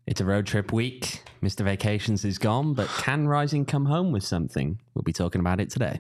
It's a road trip week. Mr. Vacations is gone, but can Rising come home with something? We'll be talking about it today.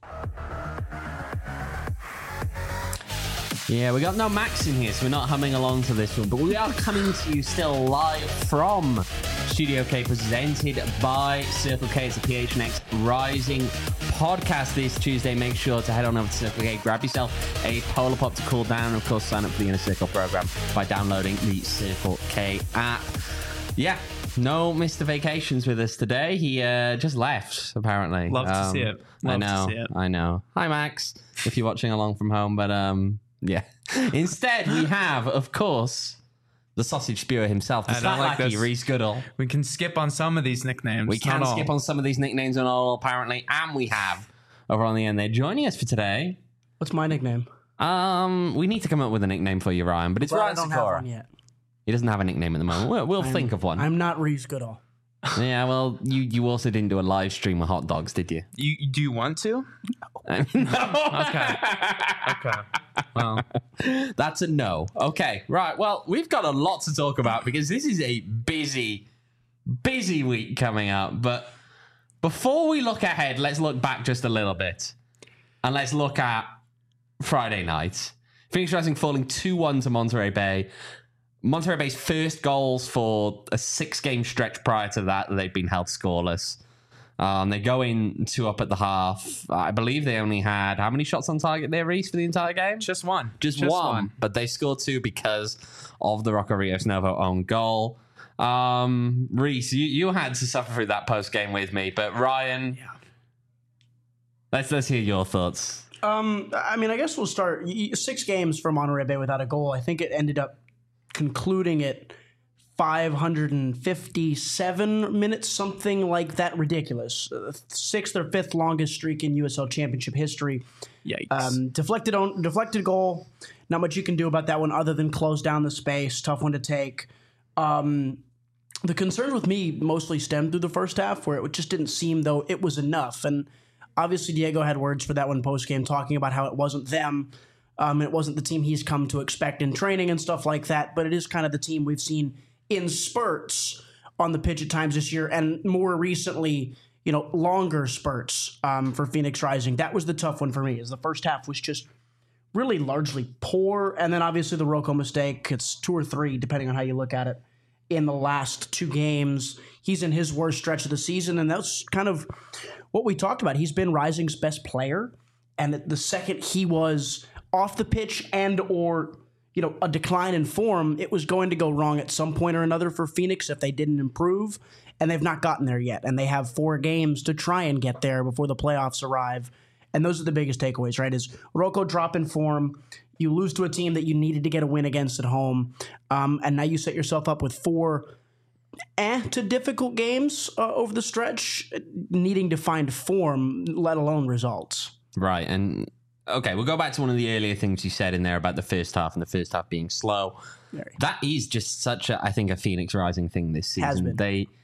Yeah, we got no Max in here, so we're not humming along to this one, but we are coming to you still live from Studio K, presented by Circle K. It's a PHNX Rising podcast this Tuesday. Make sure to head on over to Circle K, grab yourself a Polar Pop to cool down, and of course sign up for the Inner Circle program by downloading the Circle K app. Yeah, no Mr. Vacations with us today. He just left, apparently. Love to see it. I know. Hi, Max, if you're watching along from home, but yeah. Instead, we have, of course, the sausage spewer himself, the Slacky Reese Goodall. We can skip on some of these nicknames. We can skip on some of these nicknames and all, apparently. And we have, over on the end there, joining us for today. What's my nickname? We need to come up with a nickname for you, Ryan, but it's Ryan I don't have one yet. He doesn't have a nickname at the moment. We'll think of one. I'm not Reese Goodall. Yeah, well, you also didn't do a live stream with hot dogs, did you? You do you want to? No. Okay. Well, that's a no. Okay, right. Well, we've got a lot to talk about because this is a busy week coming up. But before we look ahead, let's look back just a little bit. And let's look at Friday night. Phoenix Rising falling 2-1 to Monterey Bay. Monterey Bay's first goals for a 6-game stretch prior to that they've been held scoreless. They go in 2 up at the half. I believe they only had how many shots on target there, Reese, for the entire game? Just one. Just one. But they scored 2 because of the Rocco Rios Novo own goal. Reese, you had to suffer through that post game with me, but Ryan, let's hear your thoughts. I mean, I guess we'll start 6 games for Monterey Bay without a goal. I think it ended up concluding at 557 minutes, something like that. Ridiculous. 6th or 5th longest streak in USL Championship history. Yikes. Deflected goal. Not much you can do about that one other than close down the space. Tough one to take. The concerns with me mostly stemmed through the first half, where it just didn't seem though it was enough. And obviously Diego had words for that one post-game, talking about how it wasn't them. It wasn't the team he's come to expect in training and stuff like that, but it is kind of the team we've seen in spurts on the pitch at times this year, and more recently, longer spurts for Phoenix Rising. That was the tough one for me, is the first half was just really largely poor, and then obviously the Rocco mistake, it's 2 or 3, depending on how you look at it, in the last 2 games. He's in his worst stretch of the season, and that's kind of what we talked about. He's been Rising's best player, and the second he was off the pitch and or a decline in form, it was going to go wrong at some point or another for Phoenix if they didn't improve, and they've not gotten there yet. And they have 4 games to try and get there before the playoffs arrive. And those are the biggest takeaways, right? Is Rocco drop in form, you lose to a team that you needed to get a win against at home, and now you set yourself up with 4 to difficult games over the stretch, needing to find form, let alone results. Right, and okay, we'll go back to one of the earlier things you said in there about the first half and the first half being slow. That is just such a Phoenix Rising thing this season.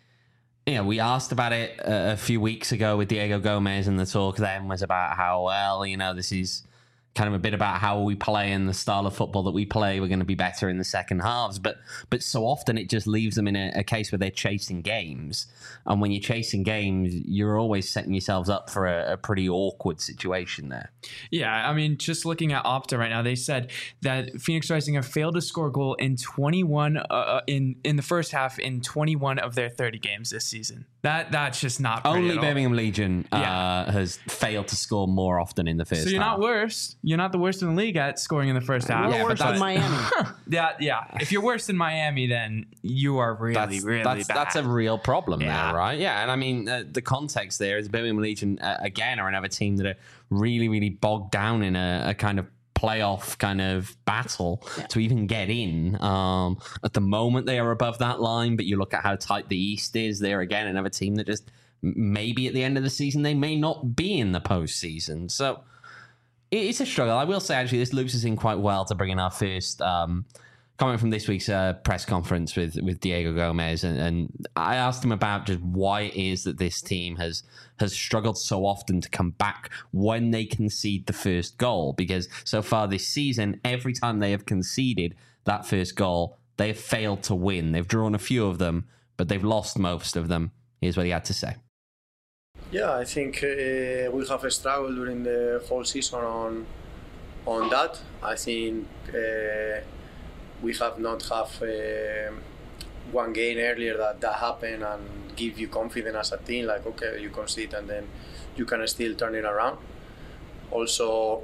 We asked about it a few weeks ago with Diego Gomez, and the talk then was about how, this is kind of a bit about how we play and the style of football that we play. We're going to be better in the second halves. But so often it just leaves them in a case where they're chasing games. And when you're chasing games, you're always setting yourselves up for a pretty awkward situation there. Yeah, I mean, just looking at Opta right now, they said that Phoenix Rising have failed to score a goal in 21 in the first half in 21 of their 30 games this season. That's just not pretty only at all. Birmingham Legion has failed to score more often in the first half. So you're not worse. You're not the worst in the league at scoring in the first half. You're worse than Miami. Yeah. If you're worse than Miami, then you are really bad. That's a real problem there, right? Yeah, and I mean, the context there is Birmingham Legion, again, are another team that are really, really bogged down in a kind of playoff kind of battle to even get in. At the moment, they are above that line, but you look at how tight the East is. They're, again, another team that just maybe at the end of the season, they may not be in the postseason. So it's a struggle. I will say, actually, this loops us in quite well to bring in our first comment from this week's press conference with Diego Gomez. And I asked him about just why it is that this team has struggled so often to come back when they concede the first goal. Because so far this season, every time they have conceded that first goal, they've failed to win. They've drawn a few of them, but they've lost most of them. Here's what he had to say. Yeah, I think we have struggled during the whole season on that. I think we have not have one game earlier that happened and give you confidence as a team, like, okay, you concede and then you can still turn it around. Also,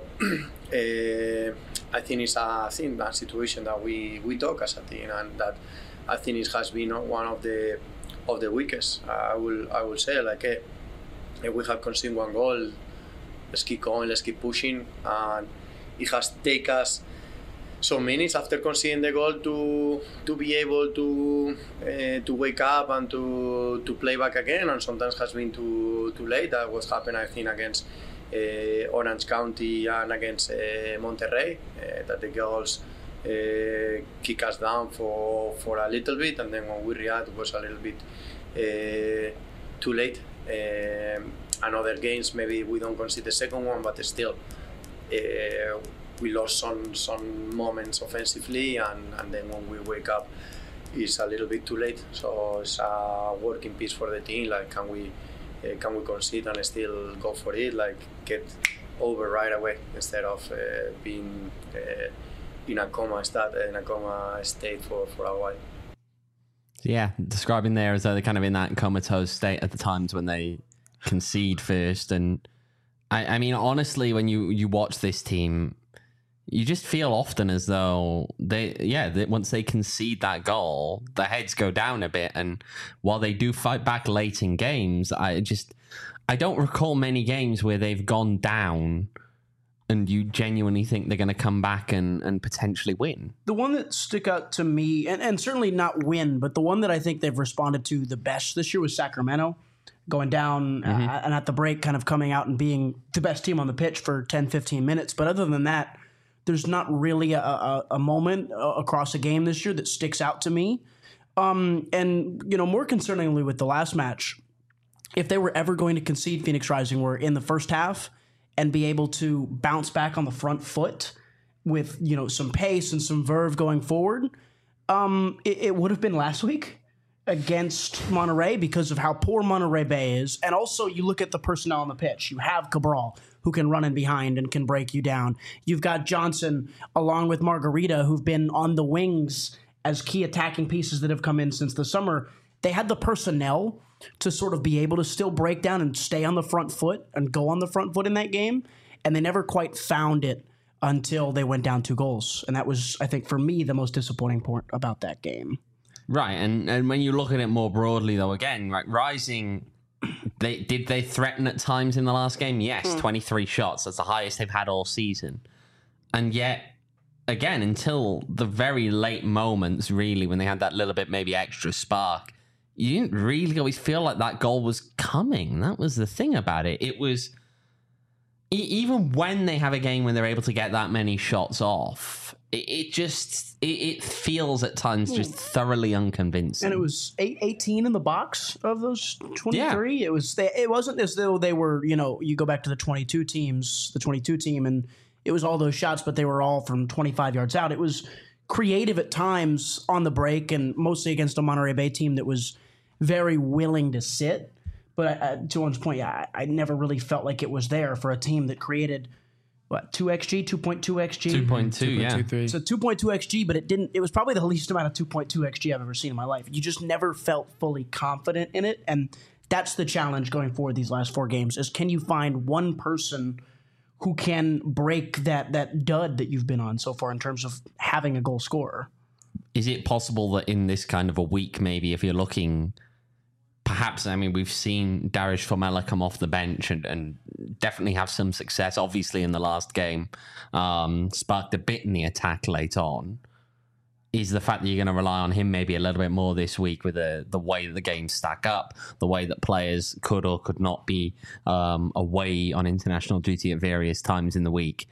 I think it's a situation that we talk as a team, and that I think it has been one of the weakest. I will say, like, if we have conceded one goal, let's keep going, let's keep pushing, and it has taken us some minutes after conceding the goal to be able to wake up and to play back again, and sometimes has been too late. That was happened, I think, against Orange County and against Monterrey, that the goals kick us down for a little bit, and then when we react, it was a little bit too late. And other games, maybe we don't concede the second one, but still we lost some moments offensively, and then when we wake up, it's a little bit too late. So it's a working piece for the team. Like, can we concede and still go for it? Like, get over right away instead of being in a coma state for a while. Yeah, describing there as though they're kind of in that comatose state at the times when they concede first. And I mean, honestly, when you watch this team, you just feel often as though once they concede that goal, the heads go down a bit. And while they do fight back late in games, I don't recall many games where they've gone down and you genuinely think they're going to come back and potentially win. The one that stuck out to me, and certainly not win, but the one that I think they've responded to the best this year was Sacramento, going down and at the break kind of coming out and being the best team on the pitch for 10, 15 minutes. But other than that, there's not really a moment across a game this year that sticks out to me. And, more concerningly with the last match, if they were ever going to concede, Phoenix Rising were in the first half and be able to bounce back on the front foot with, some pace and some verve going forward, it would have been last week against Monterey because of how poor Monterey Bay is. And also you look at the personnel on the pitch. You have Cabral, who can run in behind and can break you down. You've got Johnson along with Margarita, who've been on the wings as key attacking pieces that have come in since the summer. They had the personnel to sort of be able to still break down and stay on the front foot and go on the front foot in that game. And they never quite found it until they went down 2 goals. And that was, I think, for me, the most disappointing part about that game. Right. And when you look at it more broadly, though, again, right, Rising, they threaten at times in the last game? Yes, 23 shots. That's the highest they've had all season. And yet, again, until the very late moments, really, when they had that little bit maybe extra spark, you didn't really always feel like that goal was coming. That was the thing about it. It was, even when they have a game when they're able to get that many shots off, it feels at times just thoroughly unconvincing. And it was 18 in the box of those 23. Yeah. It wasn't as though they were, you go back to the 22 team, and it was all those shots, but they were all from 25 yards out. It was creative at times on the break, and mostly against a Monterey Bay team that was very willing to sit. But to Owen's point, I never really felt like it was there for a team that created, 2 XG, 2.2 XG? 2.2, yeah. 2.23. So 2.2 XG, but it was probably the least amount of 2.2 XG I've ever seen in my life. You just never felt fully confident in it, and that's the challenge going forward these last 4 games, is can you find one person who can break that dud that you've been on so far in terms of having a goal scorer? Is it possible that in this kind of a week, maybe if you're looking, perhaps, I mean, we've seen Darius Formella come off the bench and definitely have some success, obviously, in the last game, sparked a bit in the attack late on. Is the fact that you're going to rely on him maybe a little bit more this week with the way that the games stack up, the way that players could or could not be away on international duty at various times in the week,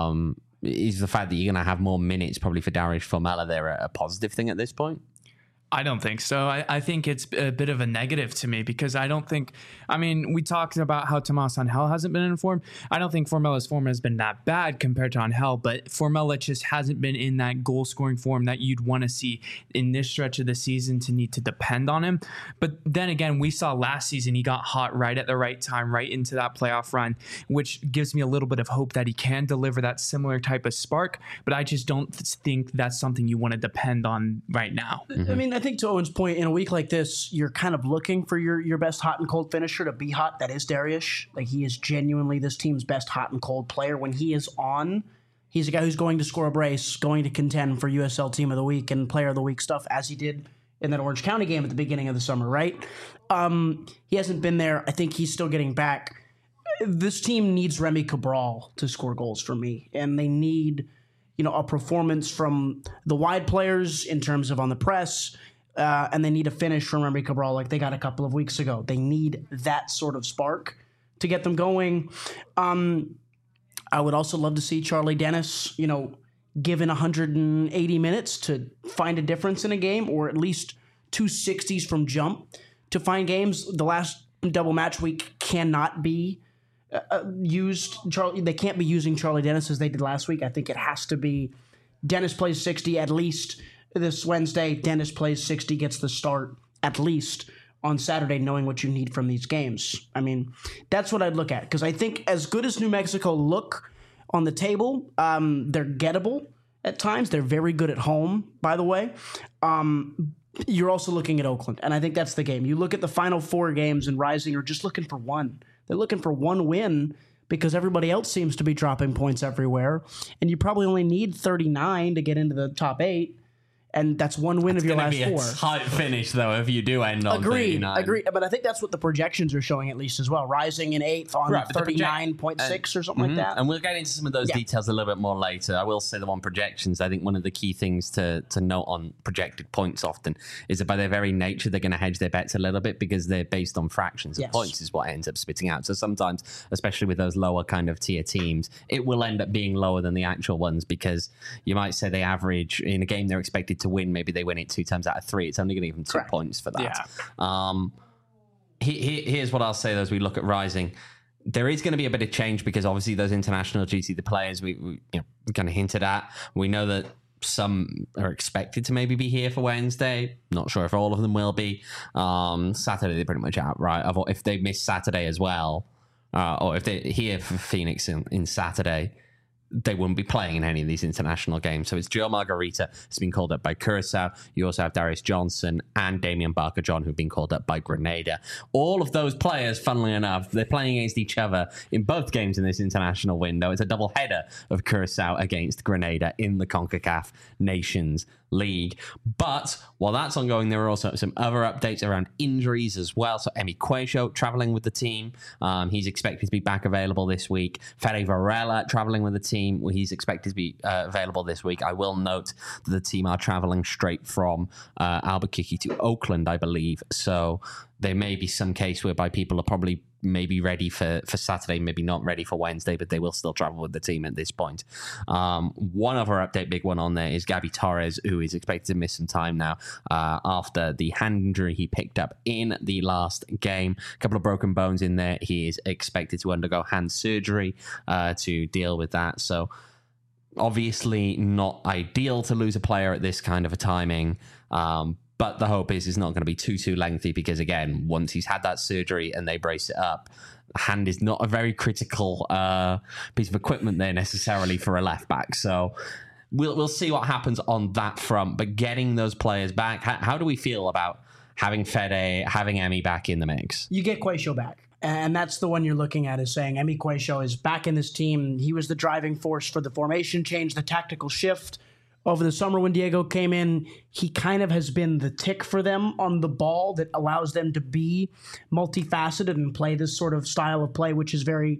is the fact that you're going to have more minutes probably for Darius Formella there a positive thing at this point? I don't think so. I think it's a bit of a negative to me because I don't think, I mean, we talked about how Tomas Angel hasn't been in form. I don't think Formella's form has been that bad compared to Angel, but Formella just hasn't been in that goal scoring form that you'd want to see in this stretch of the season to need to depend on him. But then again, we saw last season he got hot right at the right time, right into that playoff run, which gives me a little bit of hope that he can deliver that similar type of spark. But I just don't think that's something you want to depend on right now. I mean, I think to Owen's point, in a week like this, you're kind of looking for your best hot and cold finisher to be hot. That is Dariush. Like, he is genuinely this team's best hot and cold player. When he is on, he's a guy who's going to score a brace, going to contend for USL Team of the Week and Player of the Week stuff, as he did in that Orange County game at the beginning of the summer, right? He hasn't been there. I think he's still getting back. This team needs Remy Cabral to score goals for me, and they need, a performance from the wide players in terms of on the press, and they need a finish from Remy Cabral like they got a couple of weeks ago. They need that sort of spark to get them going. I would also love to see Charlie Dennis, given 180 minutes to find a difference in a game, or at least 2 60s from jump to find games. The last double match week cannot be used. They can't be using Charlie Dennis as they did last week. I think it has to be Dennis plays 60 at least this Wednesday. Dennis plays 60, gets the start at least on Saturday, knowing what you need from these games. I mean, that's what I'd look at, because I think as good as New Mexico look on the table, they're gettable at times. They're very good at home, by the way. You're also looking at Oakland, and I think that's the game. You look at the final 4 games, and Rising are just looking for one. They're looking for one win because everybody else seems to be dropping points everywhere, and you probably only need 39 to get into the top 8. And that's one win of your last 4. It's tight finish, though, if you do end on 39. Agreed. But I think that's what the projections are showing, at least, as well. Rising in 8th on 39.6 or something like that. And we'll get into some of those details a little bit more later. I will say that on projections, I think one of the key things to note on projected points often is that by their very nature, they're going to hedge their bets a little bit because they're based on fractions of points is what ends up spitting out. So sometimes, especially with those lower kind of tier teams, it will end up being lower than the actual ones because you might say they average in a game they're expected to win. Maybe they win it 2 times out of 3. It's only going to give them 2 points for that. Yeah. Here's what I'll say though, as we look at Rising. There is going to be a bit of change because obviously those international duty, the players we kind of hinted at. We know that some are expected to maybe be here for Wednesday. Not sure if all of them will be. Saturday they're pretty much out, right? If they miss Saturday as well, or if they're here for Phoenix in Saturday, they wouldn't be playing in any of these international games. So it's Joe Margarita who's been called up by Curacao. You also have Darius Johnson and Damian Barker-John who've been called up by Grenada. All of those players, funnily enough, they're playing against each other in both games in this international window. It's a double header of Curacao against Grenada in the CONCACAF Nations League. But while that's ongoing, there are also some other updates around injuries as well. So Emi Cuejo traveling with the team. He's expected to be back available this week. Fede Varela traveling with the team. He's expected to be available this week. I will note that the team are traveling straight from Albuquerque to Oakland, I believe. So there may be some case whereby people are probably maybe ready for Saturday, maybe not ready for Wednesday, but they will still travel with the team at this point. One other update, big one on there, is Gabby Torres, who is expected to miss some time now after the hand injury he picked up in the last game. A couple of broken bones in there. He is expected to undergo hand surgery to deal with that. So obviously not ideal to lose a player at this kind of a timing. But the hope is it's not going to be too lengthy because, again, once he's had that surgery and they brace it up, hand is not a very critical piece of equipment there necessarily for a left back. So we'll see what happens on that front. But getting those players back, how do we feel about having Fede, having Emi back in the mix? You get Cuejo back. And that's the one you're looking at, is saying Emi Cuejo is back in this team. He was the driving force for the formation change, the tactical shift. Over the summer when Diego came in, he kind of has been the tick for them on the ball that allows them to be multifaceted and play this sort of style of play, which is very,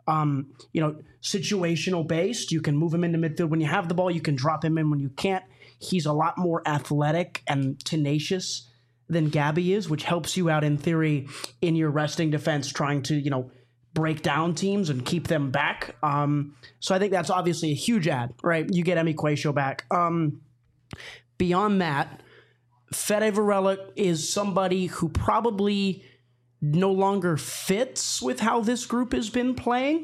situational based. You can move him into midfield when you have the ball. You can drop him in when you can't. He's a lot more athletic and tenacious than Gabby is, which helps you out in theory in your resting defense, trying to, break down teams and keep them back. So I think that's obviously a huge add, right? You get Emi Cuejo back. Beyond that, Fede Varela is somebody who probably no longer fits with how this group has been playing.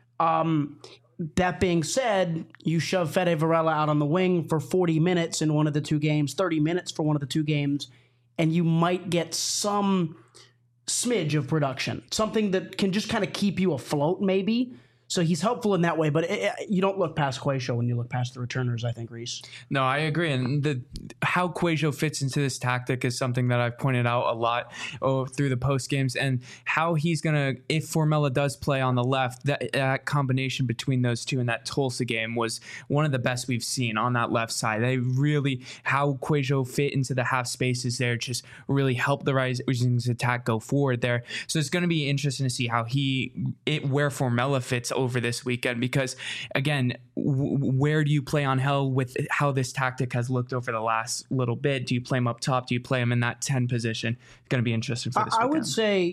That being said, you shove Fede Varela out on the wing for 40 minutes in one of the two games, 30 minutes for one of the two games, and you might get some smidge of production, something that can just kind of keep you afloat maybe. So he's helpful in that way, but you don't look past Cuejo when you look past the returners, I think, Reese. No, I agree. And how Cuejo fits into this tactic is something that I've pointed out a lot through the post games, and how he's going to, if Formella does play on the left, that combination between those two in that Tulsa game was one of the best we've seen on that left side. They really, how Cuejo fit into the half spaces there just really helped the Rising's attack go forward there. So it's going to be interesting to see how where Formella fits over this weekend, because again, where do you play Angel with how this tactic has looked over the last little bit? Do you play him up top? Do you play him in that 10 position? It's going to be interesting for this weekend. I would say,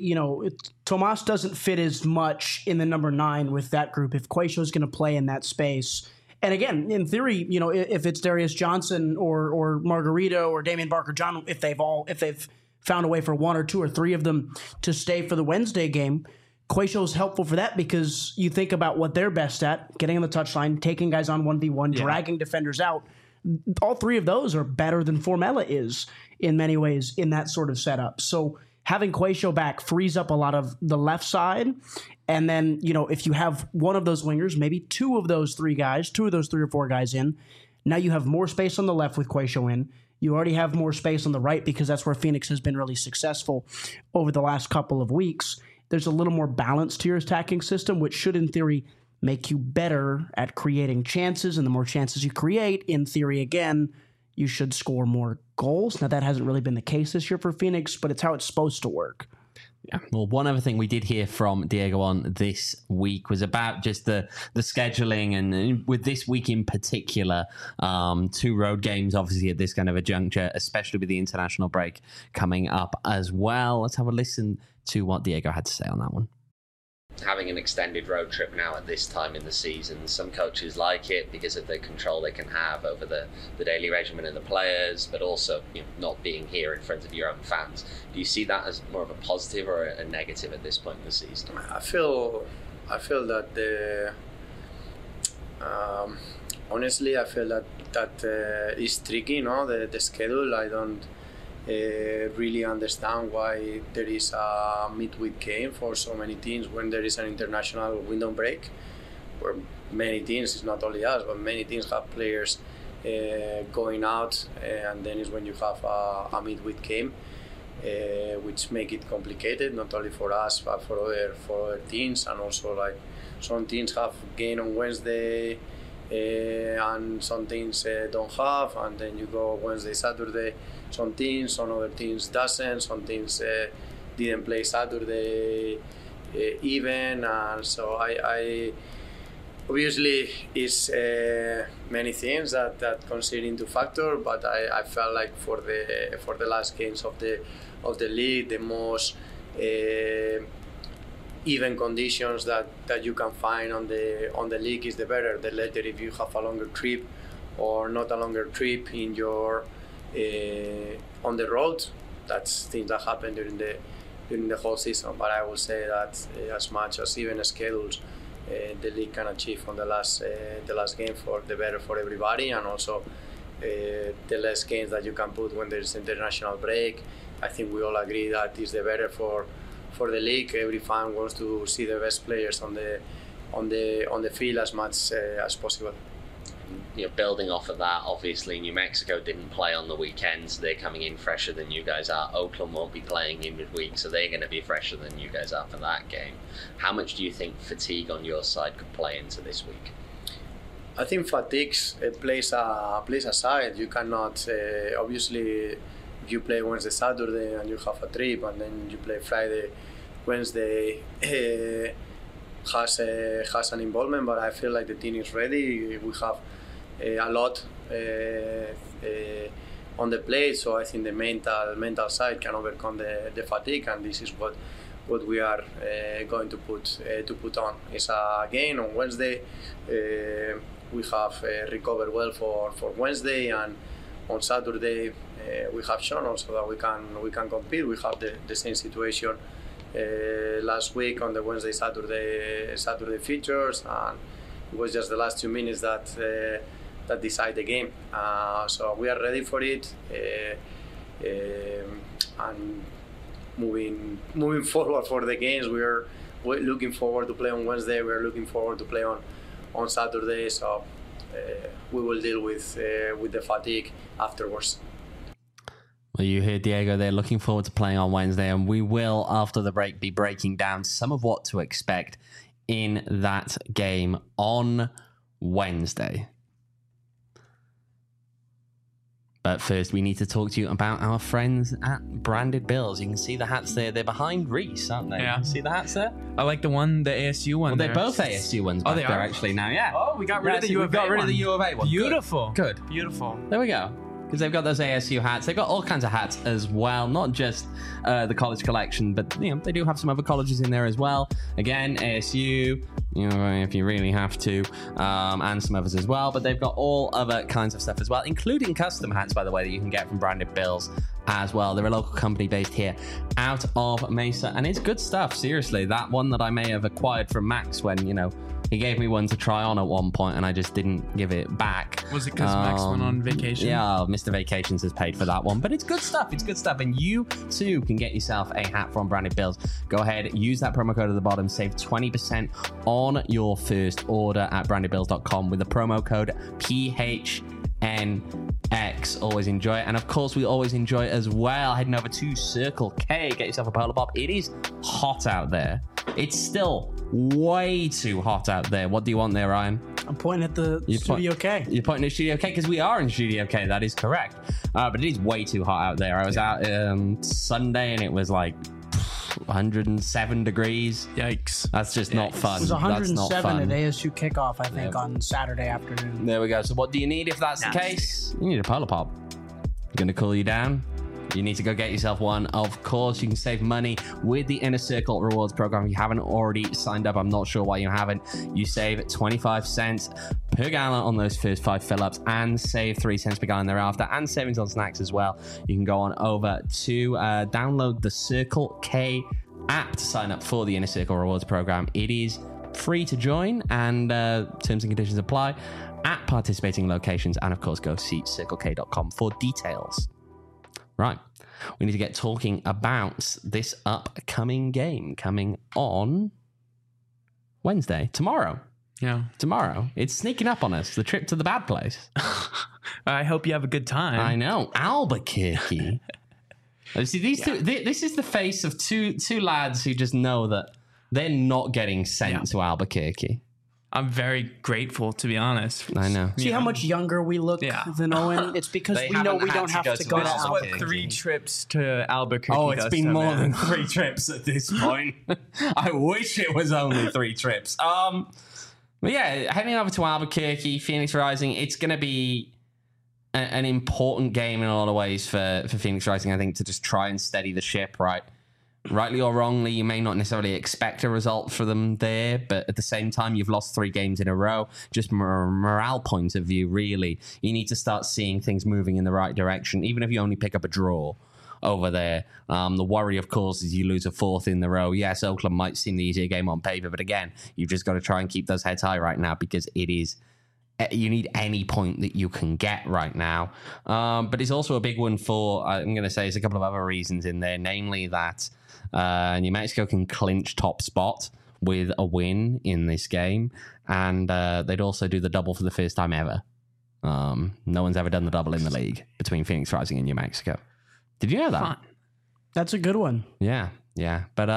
Tomas doesn't fit as much in the number 9 with that group if Cuejo is going to play in that space. And again, in theory, if it's Darius Johnson or Margarito or Damian Barker-John, if they've found a way for one or two or three of them to stay for the Wednesday game, Cuejo is helpful for that, because you think about what they're best at: getting on the touchline, taking guys on 1v1, dragging defenders out. All three of those are better than Formella is in many ways in that sort of setup. So having Cuejo back frees up a lot of the left side. And then, if you have one of those wingers, maybe two of those three or four guys in, now you have more space on the left with Cuejo in. You already have more space on the right, because that's where Phoenix has been really successful over the last couple of weeks. There's a little more balance to your attacking system, which should, in theory, make you better at creating chances. And the more chances you create, in theory, again, you should score more goals. Now, that hasn't really been the case this year for Phoenix, but it's how it's supposed to work. Yeah. Well, one other thing we did hear from Diego on this week was about just the scheduling, and with this week in particular, 2 road games, obviously, at this kind of a juncture, especially with the international break coming up as well. Let's have a listen to what Diego had to say on that one. Having an extended road trip now at this time in the season, some coaches like it because of the control they can have over the daily regimen and the players, but also not being here in front of your own fans. Do you see that as more of a positive or a negative at this point in the season? I feel that honestly, I feel that is tricky. The schedule. I don't really understand why there is a midweek game for so many teams when there is an international window break, where many teams, it's not only us, but many teams have players going out, and then is when you have a midweek game, which make it complicated, not only for us but for other teams. And also, like, some teams have game on Wednesday and some teams don't have, and then you go Wednesday, Saturday. Some other teams doesn't. Some teams didn't play Saturday even, and so I obviously is many things that consider into factor. But I felt like for the last games of the league, the most even conditions that you can find on the league is the better. The later, if you have a longer trip or not a longer trip in your on the road, that's things that happen during the whole season. But I will say that as much as even schedules the league can achieve on the last game, for the better for everybody, and also the less games that you can put when there's international break. I think we all agree that is the better for the league. Every fan wants to see the best players on the field as much as possible. Building off of that, obviously New Mexico didn't play on the weekends. They're coming in fresher than you guys are. Oakland won't be playing in midweek, so they're going to be fresher than you guys are for that game. How much do you think fatigue on your side could play into this week? I think fatigue plays a side. You cannot obviously, if you play Wednesday, Saturday, and you have a trip, and then you play Friday, Wednesday, has an involvement. But I feel like the team is ready. We have a lot on the plate, so I think the mental side can overcome the fatigue, and this is what we are going to put on. It's again on Wednesday. We have recovered well for Wednesday, and on Saturday we have shown also that we can compete. We have the same situation last week on the Wednesday Saturday features, and it was just the last 2 minutes that decide the game. So we are ready for it, and moving forward for the games. We're looking forward to play on Wednesday. We're looking forward to play on Saturday. So we will deal with the fatigue afterwards. Well, you hear Diego there, looking forward to playing on Wednesday, and we will, after the break, be breaking down some of what to expect in that game on Wednesday. But first, we need to talk to you about our friends at Branded Bills. You can see the hats there. They're behind Reese, aren't they? Yeah. See the hats there? I like the ASU one. Well, they're both ASU ones back they there, are? actually, now, yeah. Oh, we got rid of the we U of A got rid of one. the U of A one. Beautiful. Good. Beautiful. There we go. Because they've got those ASU hats. They've got all kinds of hats as well, not just the college collection, but they do have some other colleges in there as well. Again, ASU, if you really have to, and some others as well. But they've got all other kinds of stuff as well, including custom hats, by the way, that you can get from Branded Bills as well. They're a local company based here out of Mesa, and it's good stuff. Seriously, that one that I may have acquired from Max when he gave me one to try on at one point, and I just didn't give it back. Was it because Max went on vacation? Yeah, Mr. Vacations has paid for that one. But it's good stuff. It's good stuff. And you, too, can get yourself a hat from Branded Bills. Go ahead, use that promo code at the bottom. Save 20% on your first order at brandedbills.com with the promo code PHNX. Always enjoy it. And, of course, we always enjoy it as well. Heading over to Circle K. Get yourself a Polar Pop. It is hot out there. It's still way too hot out there. What do you want there, Ryan? I'm pointing at the Studio K. You're pointing at Studio K because we are in Studio K. That is correct. But it is way too hot out there. I was out Sunday and it was like 107 degrees. Yikes. That's just not fun. It was That's 107 not at fun. ASU kickoff, I think, on Saturday afternoon. There we go. So what do you need if that's the case? You need a Polar Pop. Going to cool you down? You need to go get yourself one. Of course, you can save money with the Inner Circle Rewards program. If you haven't already signed up, I'm not sure why you haven't. You save 25 cents per gallon on those first 5 fill-ups and save 3 cents per gallon thereafter, and savings on snacks as well. You can go on over to download the Circle K app to sign up for the Inner Circle Rewards program. It is free to join, and terms and conditions apply at participating locations. And of course, go see circlek.com for details. Right, we need to get talking about this upcoming game coming on Wednesday, tomorrow. Yeah. Tomorrow. It's sneaking up on us, the trip to the bad place. I hope you have a good time. I know. Albuquerque. See, these two, this is the face of two lads who just know that they're not getting sent to Albuquerque. I'm very grateful, to be honest. I know. See how much younger we look than Owen? It's because They we know haven't we had don't to have go to to go to Albuquerque. What, Albuquerque. 3 trips to Albuquerque? Oh, it's does been to more man. than 3 trips at this point. I wish it was only 3 trips. But yeah, heading over to Albuquerque, Phoenix Rising, it's going to be an important game in a lot of ways for Phoenix Rising, I think, to just try and steady the ship, right? Rightly or wrongly, you may not necessarily expect a result for them there, but at the same time, you've lost 3 games in a row. Just from a morale point of view, really, you need to start seeing things moving in the right direction, even if you only pick up a draw over there. The worry, of course, is you lose a 4th in the row. Yes, Oakland might seem the easier game on paper, but again, you've just got to try and keep those heads high right now because it is... You need any point that you can get right now. But it's also a big one for, I'm going to say, there's a couple of other reasons in there, namely that New Mexico can clinch top spot with a win in this game, and they'd also do the double for the first time ever. No one's ever done the double in the league between Phoenix Rising and New Mexico. Did you know that? Fun. That's a good one. Yeah. But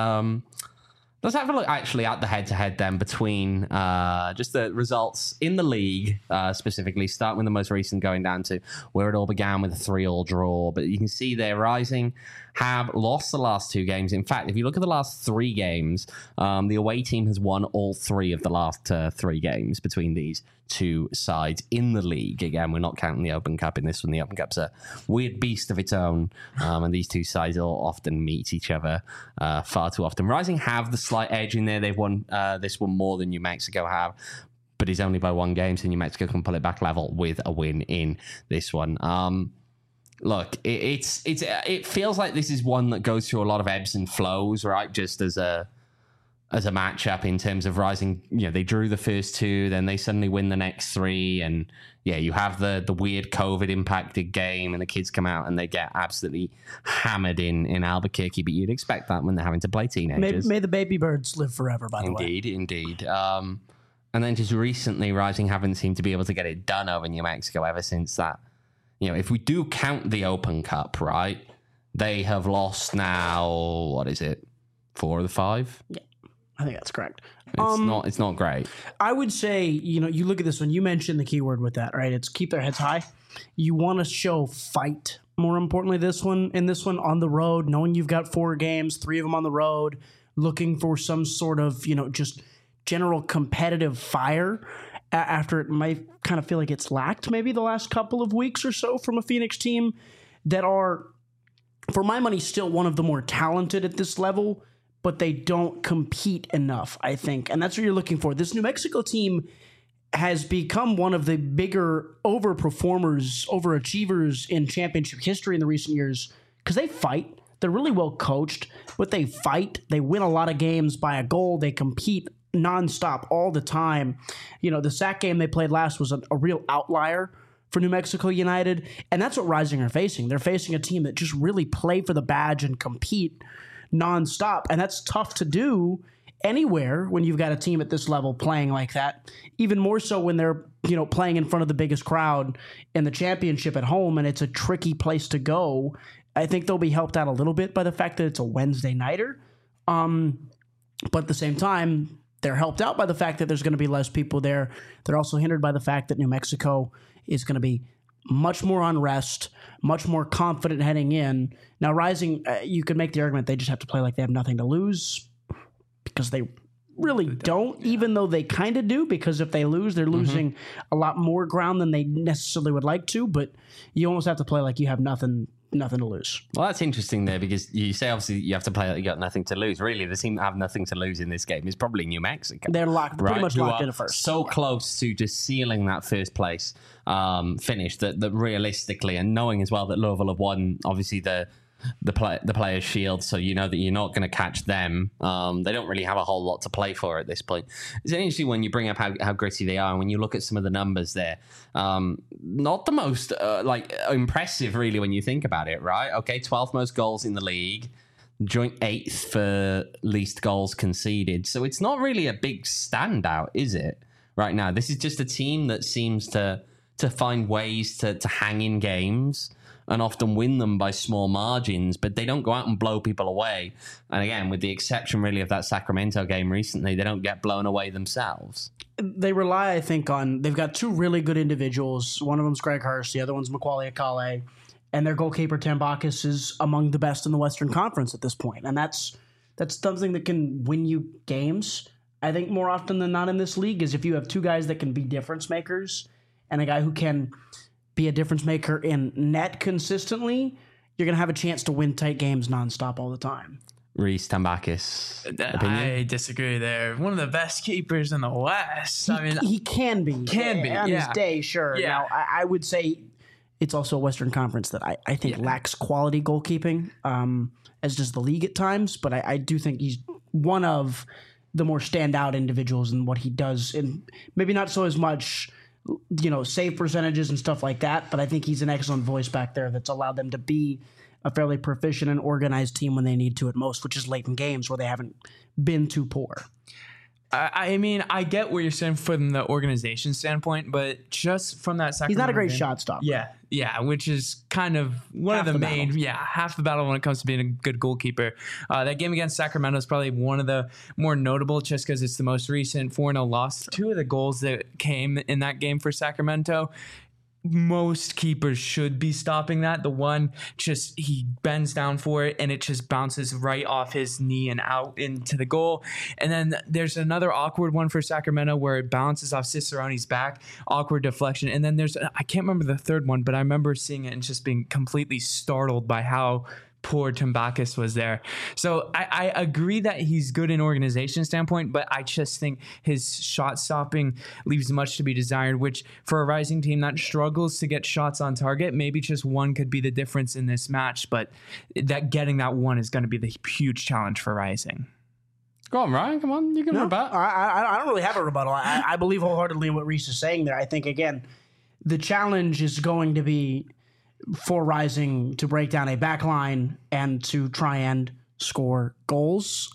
let's have a look actually at the head-to-head then between just the results in the league, specifically, starting with the most recent, going down to where it all began with a 3-3 draw. But you can see there, Rising have lost the last 2 games. In fact, if you look at the last 3 games, the away team has won all 3 of the last 3 games between these 2 sides in the league. Again, we're not counting the Open Cup in this one. The Open Cup's a weird beast of its own, and these 2 sides will often meet each other far too often. Rising have the slight edge in there. They've won this one more than New Mexico have, but it's only by 1 game, so New Mexico can pull it back level with a win in this one. look, it feels like this is one that goes through a lot of ebbs and flows, right? Just as a matchup in terms of Rising, they drew the first two, then they suddenly win the next three, and you have the weird COVID impacted game, and the kids come out and they get absolutely hammered in Albuquerque. But you'd expect that when they're having to play teenagers. May the baby birds live forever. By the way, indeed. And then just recently, Rising haven't seemed to be able to get it done over New Mexico ever since that. If we do count the Open Cup, right, they have lost now, what is it, 4 of the 5? Yeah, I think that's correct. It's not great. I would say, you look at this one, you mentioned the keyword with that, right? It's keep their heads high. You want to show fight, more importantly, in this one on the road, knowing you've got 4 games, 3 of them on the road, looking for some sort of, just general competitive fire after it might kind of feel like it's lacked maybe the last couple of weeks or so from a Phoenix team that are, for my money, still one of the more talented at this level, but they don't compete enough, I think. And that's what you're looking for. This New Mexico team has become one of the bigger overachievers in championship history in the recent years because they fight. They're really well coached, but they fight. They win a lot of games by a goal. They compete nonstop all the time. The SAC game they played last was a real outlier for New Mexico United, and that's what Rising are facing. They're facing a team that just really play for the badge and compete nonstop, and that's tough to do anywhere when you've got a team at this level playing like that. Even more so when they're playing in front of the biggest crowd in the championship at home, and it's a tricky place to go. I think they'll be helped out a little bit by the fact that it's a Wednesday nighter, but at the same time, they're helped out by the fact that there's going to be less people there. They're also hindered by the fact that New Mexico is going to be much more on rest, much more confident heading in. Now, Rising, you could make the argument they just have to play like they have nothing to lose because they really don't, even though they kind of do, because if they lose, they're losing a lot more ground than they necessarily would like to, but you almost have to play like you have nothing to lose. Well, that's interesting there because you say obviously you have to play like you got nothing to lose. Really, the team that have nothing to lose in this game is probably New Mexico. They're pretty much locked in at first. So close to just sealing that first place finish that realistically, and knowing as well that Louisville have won obviously the Players' Shield, so you know that you're not going to catch them. They don't really have a whole lot to play for at this point. It's interesting when you bring up how gritty they are, and when you look at some of the numbers there. Not the most impressive, really, when you think about it, right? Okay, 12th most goals in the league, joint 8th for least goals conceded. So it's not really a big standout, is it? Right now, this is just a team that seems to find ways to hang in games and often win them by small margins, but they don't go out and blow people away. And again, with the exception really of that Sacramento game recently, they don't get blown away themselves. They rely, I think, they've got 2 really good individuals. One of them's Greg Hurst, the other one's Macaulay Akale, and their goalkeeper Tambakis is among the best in the Western Conference at this point. And that's something that can win you games. I think more often than not in this league is if you have 2 guys that can be difference makers and a guy who can be a difference maker in net consistently, you're going to have a chance to win tight games nonstop all the time. Reese Tambakis. I disagree there. One of the best keepers in the West. He can be. On his day, sure. Yeah. Now, I would say it's also a Western Conference that I think lacks quality goalkeeping, as does the league at times. But I do think he's one of the more standout individuals in what he does. And maybe not so as much save percentages and stuff like that, but I think he's an excellent voice back there that's allowed them to be a fairly proficient and organized team when they need to at most, which is late in games where they haven't been too poor. I get what you're saying from the organization standpoint, but just from that Sacramento he's not a great game, shot stopper. Yeah, which is kind of one of the main, half the battle when it comes to being a good goalkeeper. That game against Sacramento is probably one of the more notable just because it's the most recent 4-0 loss. 2 of the goals that came in that game for Sacramento, most keepers should be stopping that. The one, just he bends down for it and it just bounces right off his knee and out into the goal. And then there's another awkward one for Sacramento where it bounces off Cicerone's back, awkward deflection. And then I can't remember the third one, but I remember seeing it and just being completely startled by how poor Tambakis was there. So I agree that he's good in organization standpoint, but I just think his shot stopping leaves much to be desired, which for a Rising team that struggles to get shots on target, maybe just one could be the difference in this match, but that getting that one is going to be the huge challenge for Rising. Go on, Ryan. Come on. You can rebut. I don't really have a rebuttal. I believe wholeheartedly in what Reese is saying there. I think, again, the challenge is going to be for Rising to break down a back line and to try and score goals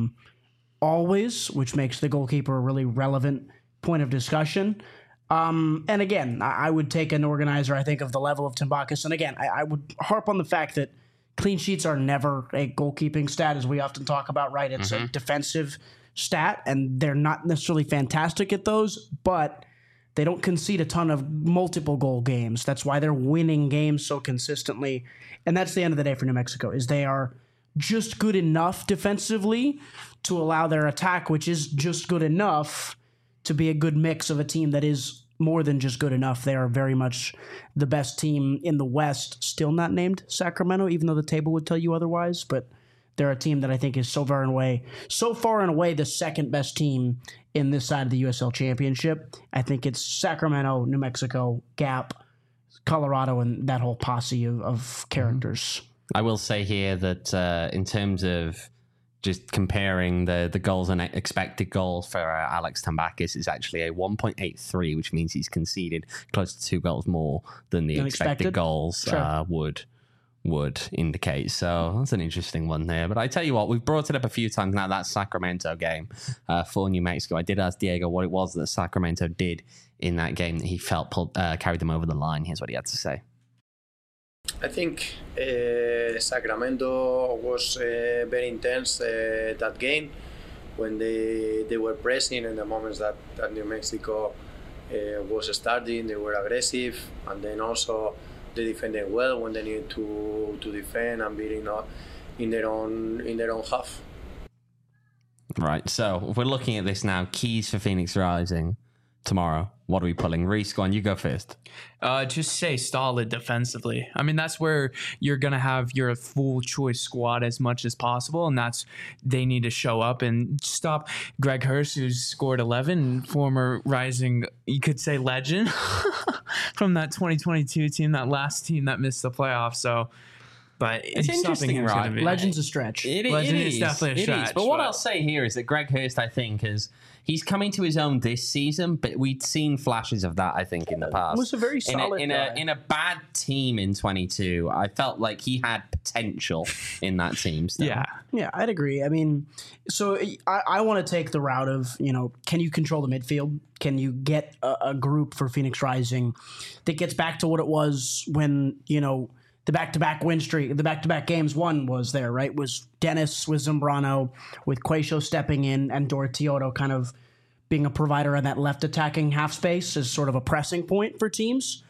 always, which makes the goalkeeper a really relevant point of discussion. And again, I would take an organizer, I think, of the level of Tambakis. And again, I would harp on the fact that clean sheets are never a goalkeeping stat, as we often talk about, right? It's a defensive stat, and they're not necessarily fantastic at those, but they don't concede a ton of multiple goal games. That's why they're winning games so consistently. And that's the end of the day for New Mexico, is they are just good enough defensively to allow their attack, which is just good enough, to be a good mix of a team that is more than just good enough. They are very much the best team in the West, still not named Sacramento, even though the table would tell you otherwise. But they're a team that I think is so far and away the second best team in this side of the USL Championship. I think it's Sacramento, New Mexico, Gap, Colorado, and that whole posse of characters. I will say here that in terms of just comparing the goals and expected goals for Alex Tambakis, is actually a 1.83, which means he's conceded close to 2 goals more than the expected goals would indicate. So that's an interesting one there. But I tell you what, we've brought it up a few times now, that Sacramento game for New Mexico. I did ask Diego what it was that Sacramento did in that game that he felt carried them over the line. Here's what he had to say. I think Sacramento was very intense that game when they were pressing, and the moments that New Mexico was starting, they were aggressive, and then also they defended well when they needed to defend and beating in their own half. Right. So if we're looking at this now, keys for Phoenix Rising tomorrow. What are we pulling? Reese, go on, you go first. Just stay solid defensively. I mean, that's where you're going to have your full choice squad as much as possible, and they need to show up and stop Greg Hurst, who's scored 11, former Rising, you could say legend, from that 2022 team, that last team that missed the playoffs. So, but it's interesting, right? Legend's a stretch. Legend is definitely a stretch. But what I'll say here is that Greg Hurst, I think, he's coming to his own this season, but we'd seen flashes of that, I think, in the past. It was a very solid in a bad team in 22. I felt like he had potential in that team still. Yeah, I'd agree. I mean, so I want to take the route of, can you control the midfield? Can you get a group for Phoenix Rising that gets back to what it was when, the back-to-back win streak, the back-to-back games one was there, right? Was Dennis with Zambrano, with Quaisho stepping in, and Dorotioto kind of being a provider in that left attacking half space as sort of a pressing point for teams.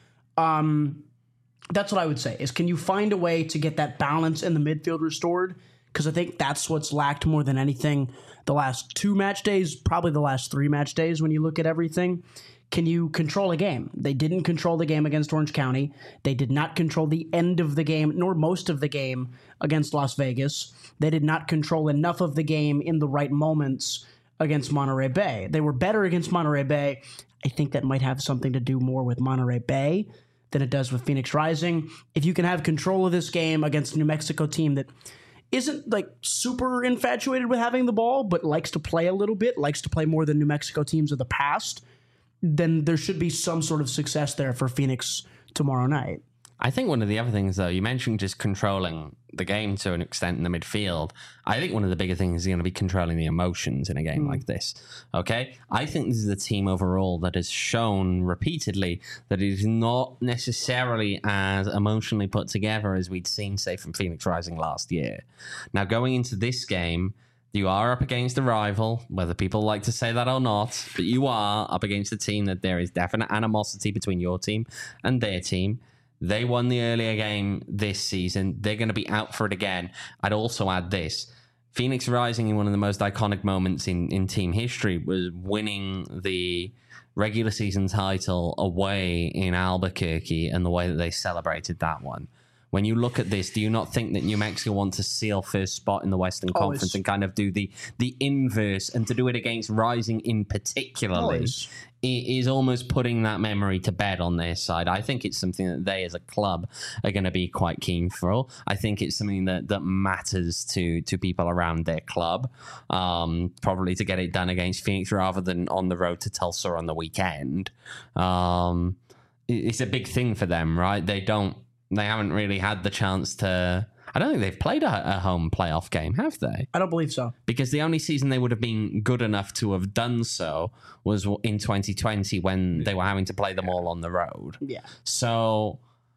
That's what I would say, is can you find a way to get that balance in the midfield restored? Because I think that's what's lacked more than anything the last 2 match days, probably the last 3 match days when you look at everything. Can you control a game? They didn't control the game against Orange County. They did not control the end of the game, nor most of the game against Las Vegas. They did not control enough of the game in the right moments against Monterey Bay. They were better against Monterey Bay. I think that might have something to do more with Monterey Bay than it does with Phoenix Rising. If you can have control of this game against a New Mexico team that isn't like super infatuated with having the ball, but likes to play a little bit, likes to play more than New Mexico teams of the past, then there should be some sort of success there for Phoenix tomorrow night. I think one of the other things, though, you mentioned just controlling the game to an extent in the midfield. I think one of the bigger things is going to be controlling the emotions in a game like this. Okay? I think this is a team overall that has shown repeatedly that it is not necessarily as emotionally put together as we'd seen, say, from Phoenix Rising last year. Now, going into this game, you are up against a rival, whether people like to say that or not, but you are up against a team that there is definite animosity between your team and their team. They won the earlier game this season. They're going to be out for it again. I'd also add this. Phoenix Rising, in one of the most iconic moments in team history, was winning the regular season title away in Albuquerque and the way that they celebrated that one when you look at this, do you not think that New Mexico want to seal first spot in the Western Conference and kind of do the inverse, and to do it against Rising in particularly? It is almost putting that memory to bed on their side. I think it's something that they as a club are going to be quite keen for. I think it's something that matters to people around their club, probably to get it done against Phoenix rather than on the road to Tulsa on the weekend. It's a big thing for them, right? They haven't really had the chance to... I don't think they've played a home playoff game, have they? I don't believe so. Because the only season they would have been good enough to have done so was in 2020 when they were having to play them all on the road. Yeah. So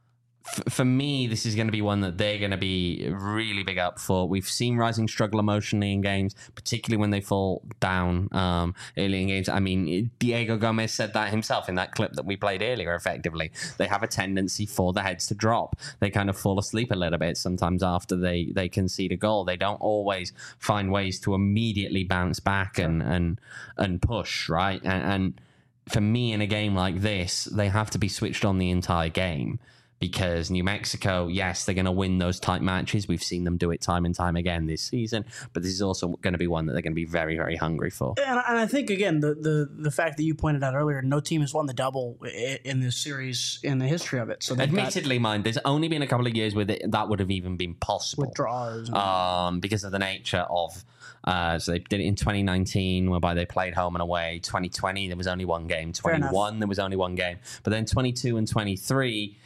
for me, this is going to be one that they're going to be really big up for. We've seen Rising struggle emotionally in games, particularly when they fall down early in games. I mean, Diego Gomez said that himself in that clip that we played earlier, effectively. They have a tendency for the heads to drop. They kind of fall asleep a little bit sometimes after they concede a goal. They don't always find ways to immediately bounce back and push, right? And for me, in a game like this, they have to be switched on the entire game. Because New Mexico, yes, they're going to win those tight matches. We've seen them do it time and time again this season. But this is also going to be one that they're going to be very, very hungry for. And I think, again, the fact that you pointed out earlier, no team has won the double in this series in the history of it. So admittedly, mind, there's only been a couple of years where that would have even been possible. With draws. Because of the nature of... so they did it in 2019, whereby they played home and away. 2020, there was only one game. 21, there was only one game. But then 22 and 23...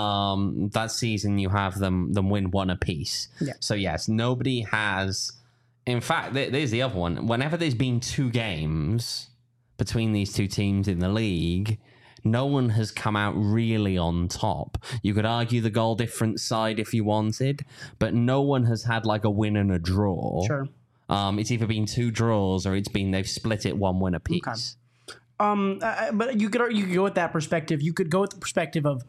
that season you have them win one apiece. Yeah. So yes, nobody has. In fact, there's the other one. Whenever there's been two games between these two teams in the league, no one has come out really on top. You could argue the goal difference side if you wanted, but no one has had like a win and a draw. Sure. It's either been two draws or it's been they've split it 1-1 apiece. Okay. But you could go with that perspective. You could go with the perspective of,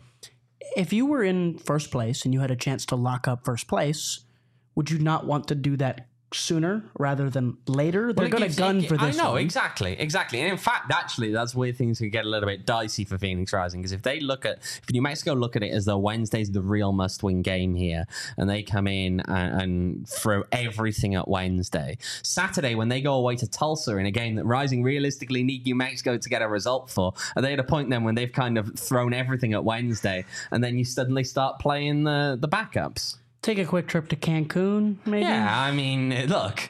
if you were in first place and you had a chance to lock up first place, would you not want to do that sooner rather than later? They're going to gun for this. I know, one. exactly. And in fact, actually, that's where things could get a little bit dicey for Phoenix Rising, because if New Mexico look at it as though Wednesday's the real must-win game here, and they come in and throw everything at Wednesday. Saturday, when they go away to Tulsa in a game that Rising realistically need New Mexico to get a result for, are they at a point then when they've kind of thrown everything at Wednesday, and then you suddenly start playing the backups? Take a quick trip to Cancun, maybe? Yeah, I mean, look.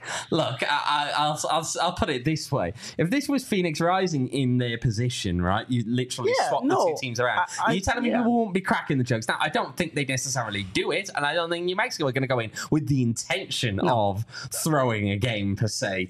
I'll put it this way: if this was Phoenix Rising in their position, right, you literally swap the two teams around. Are you telling me people won't be cracking the jokes? Now, I don't think they necessarily do it, and I don't think New Mexico are going to go in with the intention of throwing a game per se.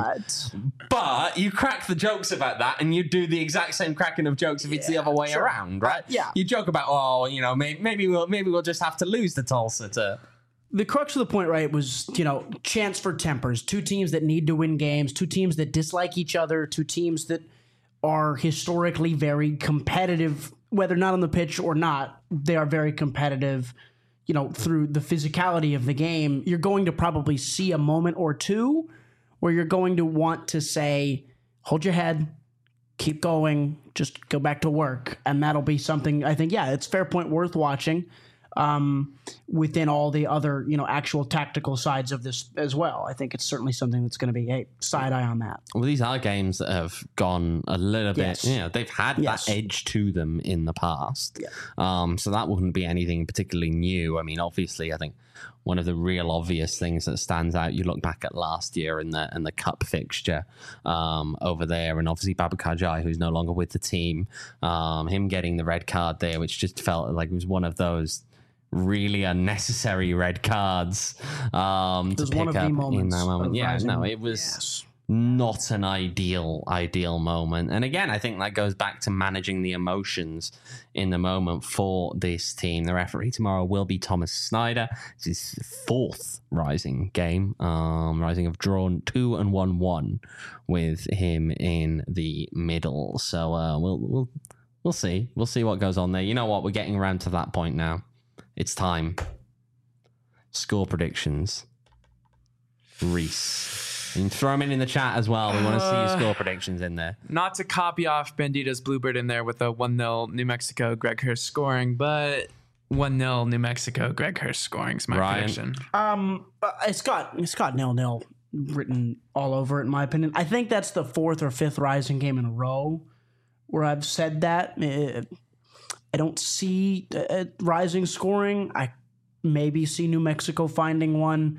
But you crack the jokes about that, and you do the exact same cracking of jokes if it's the other way around, right? You joke about, maybe we'll just have to lose to Tulsa to. The crux of the point, right, was, chance for tempers. Two teams that need to win games, two teams that dislike each other, two teams that are historically very competitive, whether not on the pitch or not. They are very competitive, through the physicality of the game. You're going to probably see a moment or two where you're going to want to say, hold your head, keep going, just go back to work. And that'll be something, I think, it's fair point worth watching. Within all the other, actual tactical sides of this as well. I think it's certainly something that's going to be a side eye on that. Well, these are games that have gone a little bit, they've had that edge to them in the past. Yeah. So that wouldn't be anything particularly new. I mean, obviously, I think one of the real obvious things that stands out, you look back at last year and the cup fixture over there, and obviously Babacar Jai, who's no longer with the team, him getting the red card there, which just felt like it was one of those really unnecessary red cards to pick up in that moment. It was not an ideal moment. And again, I think that goes back to managing the emotions in the moment for this team. The referee tomorrow will be Thomas Snyder. It's his fourth Rising game. Rising have drawn 2 and 1-1 with him in the middle. So we'll see. We'll see what goes on there. You know what? We're getting around to that point now. It's time. Score predictions. Reese. You can throw them in the chat as well. We want to see your score predictions in there. Not to copy off Bandita's Bluebird in there with a 1-0 New Mexico Greg Hurst scoring, but 1-0 New Mexico. Greg Hurst scoring is my prediction. It's got 0-0 written all over it, in my opinion. I think that's the 4th or 5th Rising game in a row where I've said that. I don't see Rising scoring. I maybe see New Mexico finding one.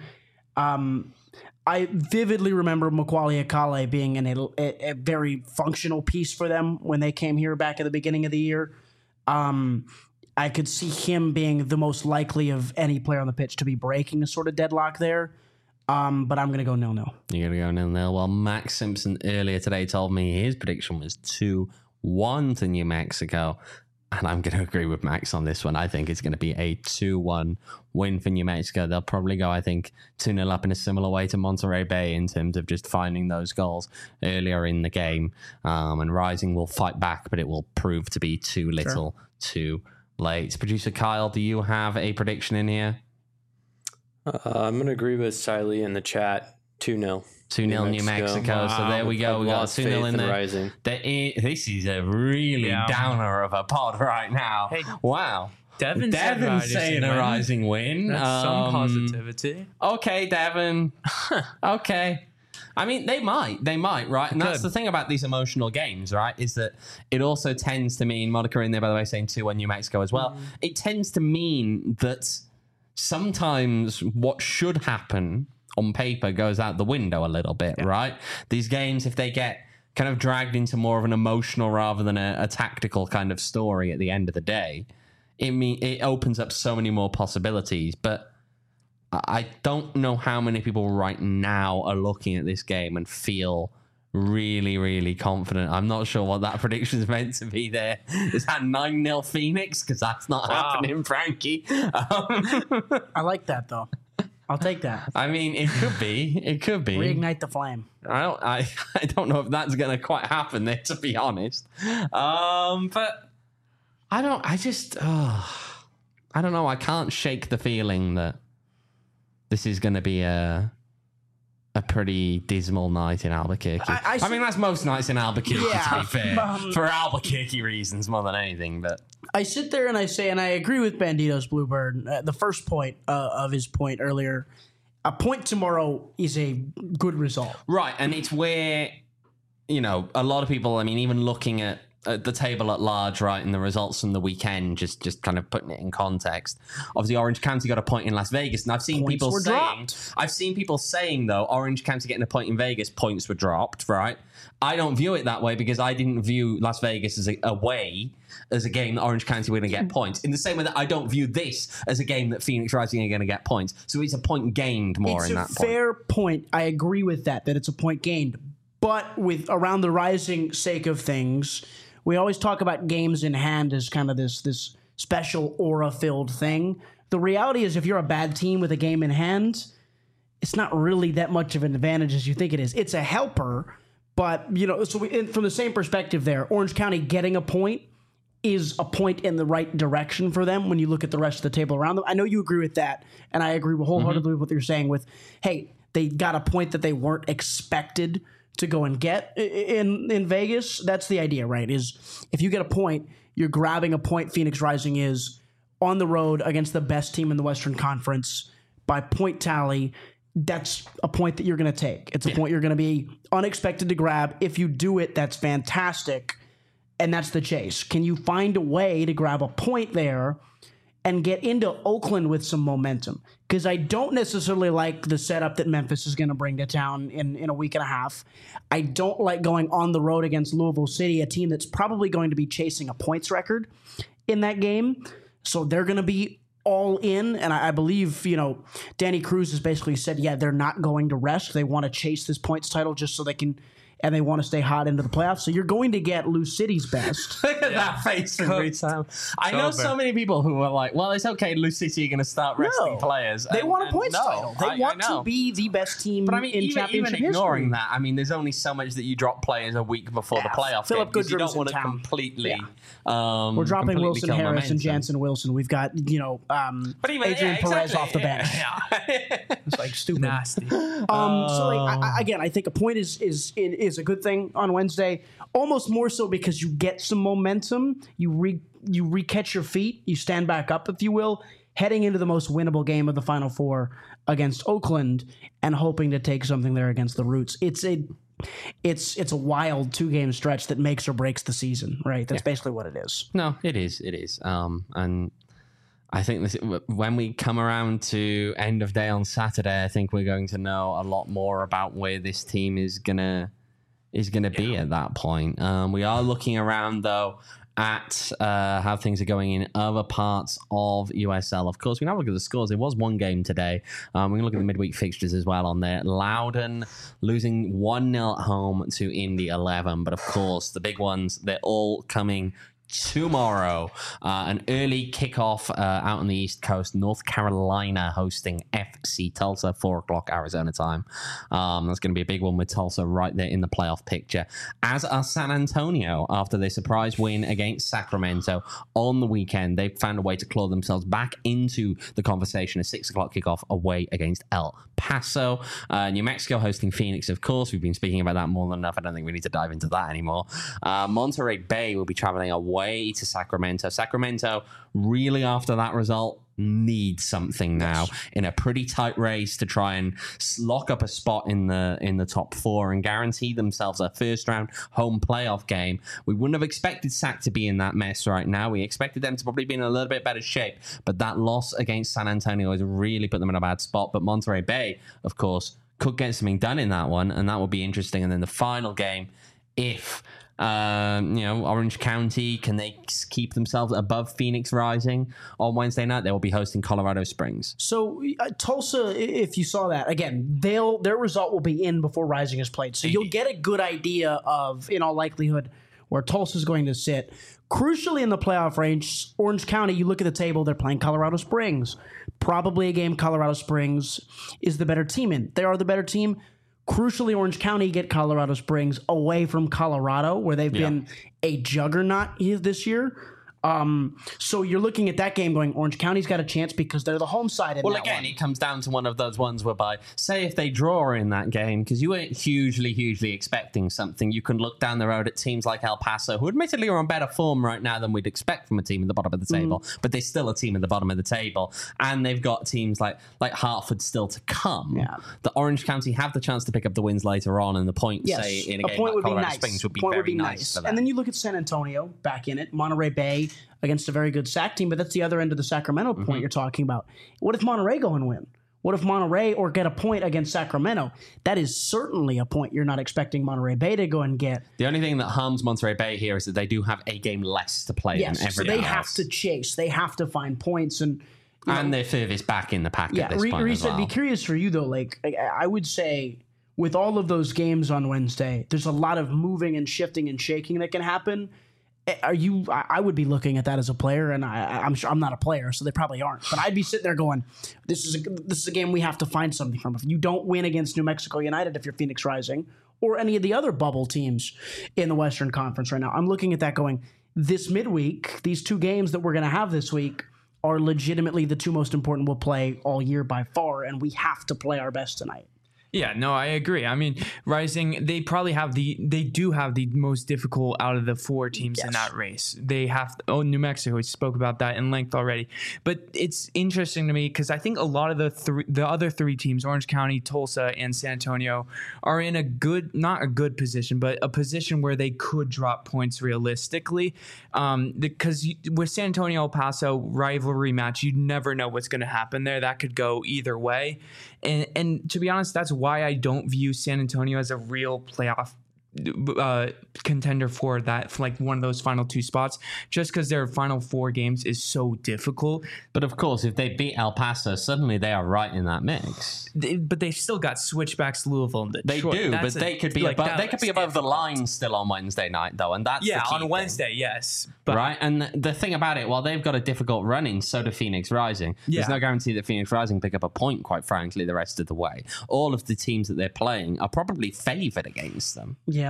I vividly remember Macaulay Akale being a very functional piece for them when they came here back at the beginning of the year. I could see him being the most likely of any player on the pitch to be breaking a sort of deadlock there. But I'm going to go 0-0. You're going to go 0-0. Well, Max Simpson earlier today told me his prediction was 2-1 to New Mexico. And I'm going to agree with Max on this one. I think it's going to be a 2-1 win for New Mexico. They'll probably go, I think, 2-0 up in a similar way to Monterey Bay in terms of just finding those goals earlier in the game. And Rising will fight back, but it will prove to be too little, too late. Producer Kyle, do you have a prediction in here? I'm going to agree with Siley in the chat. 2-0. 2-0 New Mexico. Wow. So there we go. We got 2-0 in there. Rising. This is a really downer of a pod right now. Hey, wow. Devin's saying a Rising win. That's some positivity. Okay, Devin. Okay. I mean, they might, right? And that's the thing about these emotional games, right? Is that it also tends to mean, Monica in there, by the way, saying 2-1 New Mexico as well. It tends to mean that sometimes what should happen on paper goes out the window a little bit, right? These games, if they get kind of dragged into more of an emotional rather than a tactical kind of story at the end of the day, it opens up so many more possibilities. But I don't know how many people right now are looking at this game and feel really, really confident. I'm not sure what that prediction is meant to be there. Is that 9-0 Phoenix? Because that's not happening, Frankie. I like that, though. I'll take that. I mean, it could be. It could be. Reignite the flame. I don't know if that's going to quite happen there, to be honest. But I don't know. I can't shake the feeling that this is going to be a pretty dismal night in Albuquerque. I mean, that's most nights in Albuquerque, to be fair. For Albuquerque reasons more than anything, but... I sit there and I say, and I agree with Bandito's Bluebird, the first point of his point earlier, a point tomorrow is a good result. Right, and it's where, a lot of people, I mean, even looking at the table at large, right, and the results from the weekend, just kind of putting it in context. Obviously, Orange County got a point in Las Vegas, and I've seen people saying, though, Orange County getting a point in Vegas, points were dropped, right? I don't view it that way because I didn't view Las Vegas as a game that Orange County were going to get points. In the same way that I don't view this as a game that Phoenix Rising are going to get points. So it's a point gained more in that point. It's a fair point. I agree with that it's a point gained. But with around the Rising sake of things, we always talk about games in hand as kind of this special aura-filled thing. The reality is if you're a bad team with a game in hand, it's not really that much of an advantage as you think it is. It's a helper, but, from the same perspective there, Orange County getting a point is a point in the right direction for them when you look at the rest of the table around them. I know you agree with that, and I agree wholeheartedly with what you're saying with, hey, they got a point that they weren't expected to go and get in Vegas. That's the idea, right? Is if you get a point, you're grabbing a point. Phoenix Rising is on the road against the best team in the Western Conference by point tally. That's a point that you're going to take. It's a point you're going to be unexpected to grab. If you do it, that's fantastic. And that's the chase. Can you find a way to grab a point there and get into Oakland with some momentum? Because I don't necessarily like the setup that Memphis is going to bring to town in a week and a half. I don't like going on the road against Louisville City, a team that's probably going to be chasing a points record in that game. So they're going to be all in, and I believe, Danny Cruz has basically said, they're not going to rest. They want to chase this points title just so they can, and they want to stay hot into the playoffs. So you're going to get Lou City's best. Look at that face every time. I know so many people who are like, well, it's okay, Lou City are going to start resting players. They want a points title. They want to be the best team in championship even ignoring history. that, I mean, there's only so much that you drop players a week before the playoff game because you don't want to completely... We're dropping Wilson Harris and Jansen Wilson. We've got, Adrian Perez off the bench. It's like stupid. Nasty. So again, I think a point is is a good thing on Wednesday. Almost more so because you get some momentum. You re-catch your feet. You stand back up, if you will, heading into the most winnable game of the Final Four against Oakland and hoping to take something there against the Roots. It's a wild 2-game stretch that makes or breaks the season, right? That's basically what it is. No, it is. And I think when we come around to end of day on Saturday, I think we're going to know a lot more about where this team is gonna be at that point. We are looking around though at how things are going in other parts of USL. Of course, we now look at the scores. It was one game today. We're going to look at the midweek fixtures as well on there. Loudoun losing 1-0 at home to Indy 11. But of course, the big ones, they're all coming tomorrow. An early kickoff out on the East Coast. North Carolina hosting FC Tulsa, 4 o'clock Arizona time. That's going to be a big one with Tulsa right there in the playoff picture. As are San Antonio after their surprise win against Sacramento on the weekend. They found a way to claw themselves back into the conversation. A 6 o'clock kickoff away against El Paso. New Mexico hosting Phoenix, of course. We've been speaking about that more than enough. I don't think we need to dive into that anymore. Monterey Bay will be traveling away to Sacramento. Sacramento, really after that result, need something now in a pretty tight race to try and lock up a spot in the top 4 and guarantee themselves a first round home playoff game. We wouldn't have expected Sac to be in that mess right now. We expected them to probably be in a little bit better shape, but that loss against San Antonio has really put them in a bad spot. But Monterey Bay, of course, could get something done in that one, and that will be interesting. And then the final game, if Orange County, can they keep themselves above Phoenix Rising on Wednesday night? They will be hosting Colorado Springs. So Tulsa, if you saw that, again, their result will be in before Rising is played. So you'll get a good idea of, in all likelihood, where Tulsa's going to sit. Crucially in the playoff range, Orange County, you look at the table, they're playing Colorado Springs. Probably a game Colorado Springs is the better team in. They are the better team. Crucially, Orange County get Colorado Springs away from Colorado, where they've been a juggernaut this year. So you're looking at that game going, Orange County's got a chance because they're the home side in well, that again, one. it comes down to one of those ones whereby, say if they draw in that game, because you weren't hugely expecting something, you can look down the road at teams like El Paso, who admittedly are on better form right now than we'd expect from a team at the bottom of the table, but they're still a team at the bottom of the table. And they've got teams like Hartford still to come. Yeah. The Orange County have the chance to pick up the wins later on, and the point, say, in a game like Colorado Springs would be very nice for them. And then you look at San Antonio back in it, Monterey Bay against a very good Sac team, but that's the other end of the Sacramento point you're talking about. What if Monterey go and win? What if Monterey or get a point against Sacramento? That is certainly a point you're not expecting Monterey Bay to go and get. The only thing that harms Monterey Bay here is that they do have a game less to play than everyone so they else. have to chase. They have to find points. And they're furthest back in the pack at this point Reese, as well. I'd be curious for you, though. Like, I would say with all of those games on Wednesday, there's a lot of moving and shifting and shaking that can happen. I would be looking at that as a player, and I'm sure I'm not a player, so they probably aren't. But I'd be sitting there going, "This is a game we have to find something from. If you don't win against New Mexico United, if you're Phoenix Rising, or any of the other bubble teams in the Western Conference right now, I'm looking at that going, this midweek, these 2 games that we're going to have this week are legitimately the 2 most important we'll play all year by far, and we have to play our best tonight." Yeah, no, I agree. I mean, Rising, they do have the most difficult out of the 4 teams in that race. They have, New Mexico, we spoke about that in length already. But it's interesting to me because I think a lot of the other 3 teams, Orange County, Tulsa, and San Antonio, are in not a good position, but a position where they could drop points realistically. Because with San Antonio, El Paso, rivalry match, you never know what's going to happen there. That could go either way. And to be honest, that's why I don't view San Antonio as a real playoff contender for that, for like one of those final 2 spots, just because their final 4 games is so difficult. But of course, if they beat El Paso, suddenly they are right in that mix. But they still got switchbacks, Louisville, and Detroit. They do, but they could be above the line still on Wednesday night, though, and that's the key on Wednesday, thing. yes. But, right, and the thing about it, while they've got a difficult run in, so do Phoenix Rising. There's no guarantee that Phoenix Rising pick up a point, quite frankly, the rest of the way. All of the teams that they're playing are probably favored against them. Yeah.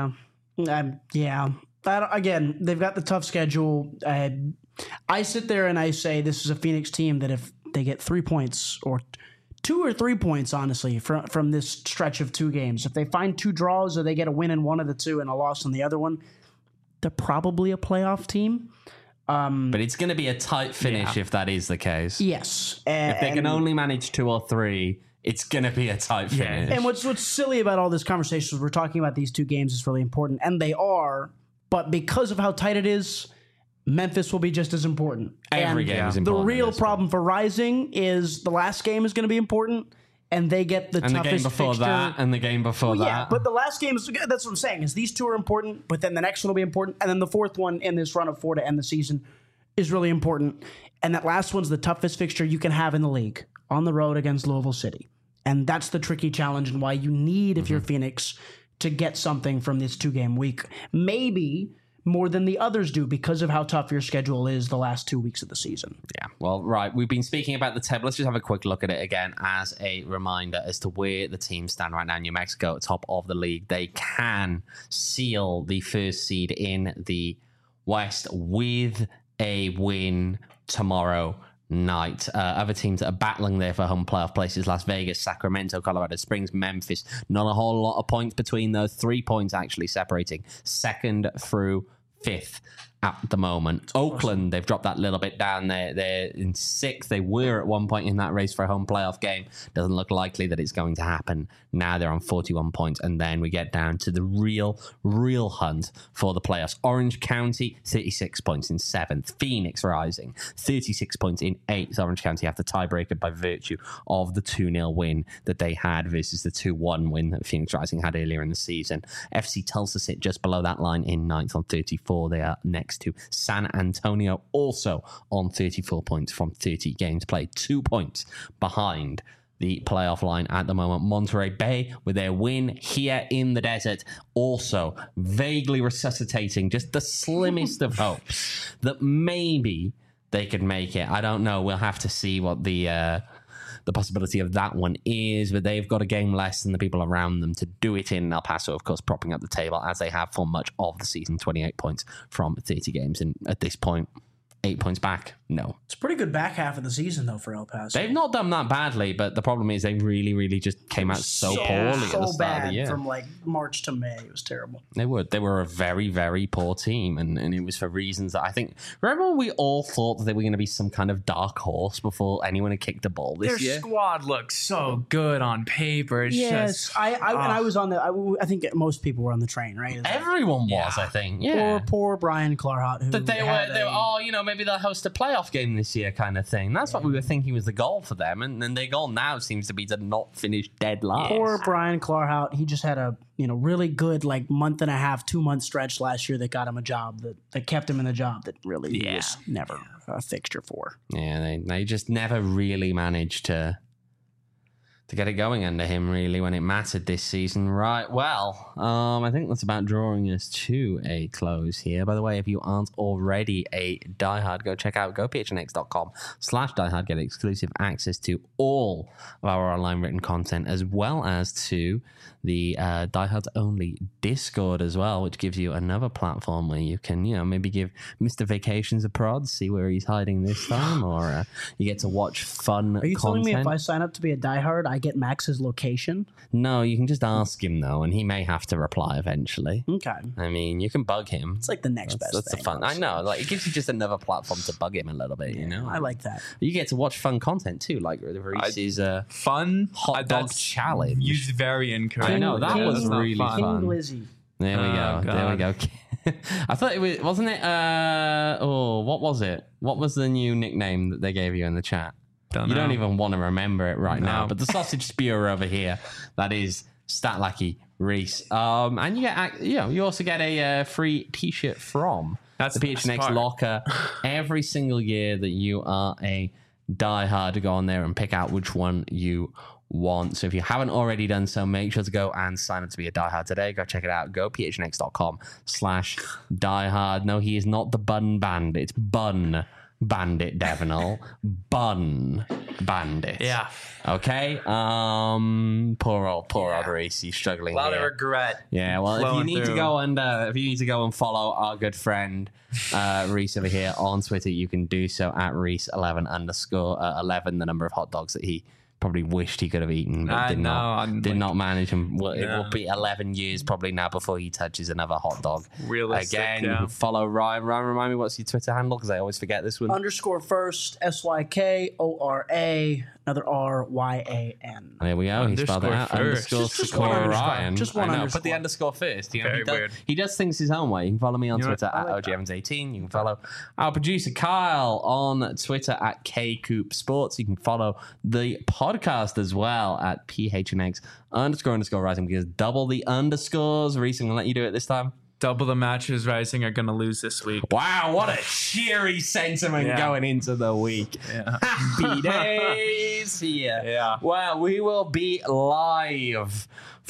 Again, they've got the tough schedule. I sit there and I say this is a Phoenix team that if they get 3 points or 2 or 3 points, honestly, from this stretch of 2 games. If they find 2 draws or they get a win in one of the 2 and a loss in the other one, they're probably a playoff team. But it's going to be a tight finish if that is the case. Yes. If they can only manage 2 or 3, it's going to be a tight finish. And what's silly about all this conversation is we're talking about these 2 games is really important, and they are, but because of how tight it is, Memphis will be just as important. Every game is important. The real problem for Rising is the last game is going to be important, and they get the toughest the game before fixture. that, and the game before that. Yeah, but the last game is, that's what I'm saying, is these 2 are important, but then the next one will be important, and then the 4th one in this run of 4 to end the season is really important. And that last one's the toughest fixture you can have in the league, on the road against Louisville City. And that's the tricky challenge and why you need, if you're Phoenix, to get something from this 2-game week. Maybe more than the others do because of how tough your schedule is the last 2 weeks of the season. Yeah, well, right. We've been speaking about the table. Let's just have a quick look at it again as a reminder as to where the teams stand right now. New Mexico at top of the league. They can seal the first seed in the West with a win tomorrow night. Other teams that are battling there for home playoff places: Las Vegas, Sacramento, Colorado Springs, Memphis. Not a whole lot of points between those. 3 points actually separating 2nd through 5th at the moment. Oakland, they've dropped that little bit down there. They're in 6th. They were at one point in that race for a home playoff game. Doesn't look likely that it's going to happen. Now they're on 41 points. And then we get down to the real hunt for the playoffs. Orange County, 36 points in 7th. Phoenix Rising, 36 points in 8th. Orange County have the tiebreaker by virtue of the 2-0 win that they had versus the 2-1 win that Phoenix Rising had earlier in the season. FC Tulsa sit just below that line in 9th on 34. They are next to San Antonio, also on 34 points from 30 games played, 2 points behind the playoff line at the moment. Monterey Bay, with their win here in the desert, also vaguely resuscitating just the slimmest of hopes that maybe they could make it. I don't know. We'll have to see what the possibility of that one is, but they've got a game less than the people around them to do it in. El Paso, of course, propping up the table as they have for much of the season, 28 points from 30 games. And at this point, 8 points back. No. It's a pretty good back half of the season, though, for El Paso. They've not done that badly, but the problem is they really just came out so poorly at the start of the year. From like March to May. It was terrible. They were a very poor team, and it was for reasons that I think... Remember when we all thought that they were going to be some kind of dark horse before anyone had kicked a ball this year? Their squad looks so good on paper. It's just... I was on the... I think most people were on the train, right? Everyone was, I think. Yeah. Poor Brian Clarhot. Who that they were, maybe they'll host a playoff game this year kind of thing. That's what we were thinking was the goal for them, and then their goal now seems to be to not finish dead last. Poor Brian Clarhot. He just had a really good month and a half, 2 month stretch last year that got him a job that kept him in the job that really he was never a fixture for. Yeah, they just never really managed to get it going under him, really, when it mattered this season. Right, well, I think that's about drawing us to a close here. By the way, if you aren't already a diehard, go check out gophnx.com/diehard. Get exclusive access to all of our online written content, as well as to the diehards only Discord as well, which gives you another platform where you can, maybe give Mr. Vacations a prod, see where he's hiding this time, or you get to watch fun content. Are you telling me if I sign up to be a diehard, I get Max's location? No, you can just ask him, though, and he may have to reply eventually. Okay. I mean, you can bug him. It's like the next best That's thing. the fun. I know. It gives you just another platform to bug him a little bit, I like that. You get to watch fun content, too, like Reese's fun hot dog challenge. Used very incorrect. I know, that was really fun. King Glizzy. There we go. There we go. I thought it was, wasn't it? What was it? What was the new nickname that they gave you in the chat? You don't even want to remember it right now. But the sausage spewer over here, that is Stat Lackey Reese. And you get, you also get a free T-shirt from the PHNX locker every single year that you are a diehard. To go on there and pick out which one you want. So if you haven't already done so, make sure to go and sign up to be a diehard today. Go check it out. Go phnx.com/diehard. No, he is not the Bun Bandit. It's Bun Bandit Devenol. Bun Bandit. Yeah. Okay. Poor old Reese. He's struggling. A lot of regret. Yeah. Well, if you need to go and follow our good friend Reese over here on Twitter, you can do so at Reese11_11, the number of hot dogs that he probably wished he could have eaten, but did not manage. And it will be 11 years probably now before he touches another hot dog. Realistic, Again, you can follow Ryan. Ryan, remind me, what's your Twitter handle? Because I always forget this one. _first, SYKORA, another RYAN. There we go. He spelled it out. Just one underscore. Ryan. Just one underscore. Put the underscore first. You know, Very weird. He does things his own way. You can follow me on Twitter at OGEvans18. You can follow our producer Kyle on Twitter at KCoopSports. You can follow the podcast as well at PHNX__rising, because double the underscores. Reese, I'm going to let you do it this time. Double the matches Rising are going to lose this week. Wow, what a cheery sentiment going into the week. Yeah. Happy days here. Yeah. Well, we will be live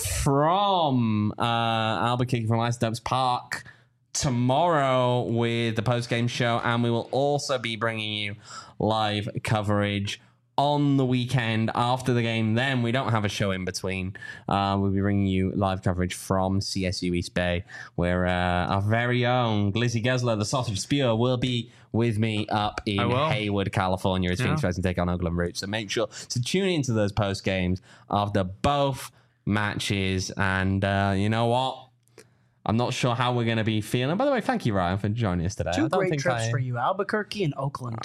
from Albuquerque, from Ice Dubs Park tomorrow with the post-game show, and we will also be bringing you live coverage on the weekend after the game. Then we don't have a show in between. We'll be bringing you live coverage from CSU East Bay, where our very own Glizzy Gessler, the sausage spewer, will be with me up in Hayward, California, as Phoenix Rising take on Oakland Roots. So make sure to tune into those post games after both matches. And you know what? I'm not sure how we're going to be feeling. By the way, thank you, Ryan, for joining us today. Two great trips for you, Albuquerque and Oakland.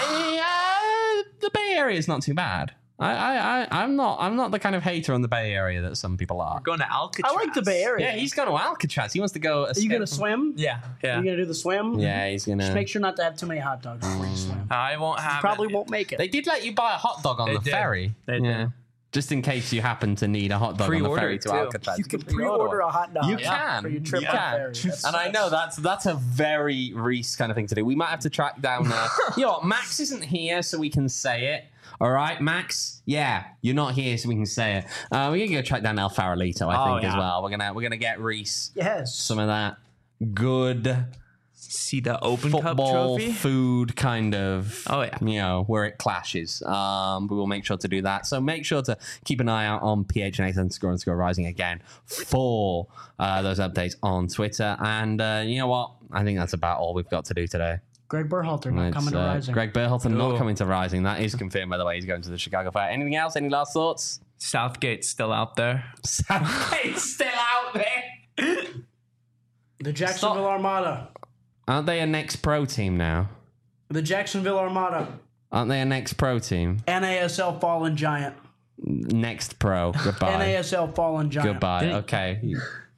The Bay Area is not too bad. I'm not the kind of hater on the Bay Area that some people are. We're going to Alcatraz. I like the Bay Area. Yeah, he's going to Alcatraz. He wants to go. Are you going to swim? Yeah. Are you going to do the swim? Yeah, he's going to. Just make sure not to have too many hot dogs before you swim. I won't have. You probably won't make it. They did let you buy a hot dog on the ferry. They did. Just in case you happen to need a hot dog on the ferry to Alcatraz. You can pre-order a hot dog. You can. For your trip on ferry. And I know that's a very Reese kind of thing to do. We might have to track down you know what, Max isn't here so we can say it. All right, Max? Yeah, you're not here so we can say it. We're going to go track down El Farolito, I think, as well. We're gonna get Reese some of that good see the Open football Cup trophy food kind of, you know, where it clashes. We will make sure to do that. So make sure to keep an eye out on PHNX__rising again for those updates on Twitter. And you know what? I think that's about all we've got to do today. Greg Berhalter not coming to Rising. Greg Berhalter not coming to Rising. That is confirmed, by the way. He's going to the Chicago Fire. Anything else? Any last thoughts? Southgate's still out there. Southgate's still out there. The Jacksonville Armada. Aren't they a next pro team now? The Jacksonville Armada. Aren't they a next pro team? NASL Fallen Giant. Next pro. Goodbye. NASL Fallen Giant. Goodbye. Okay.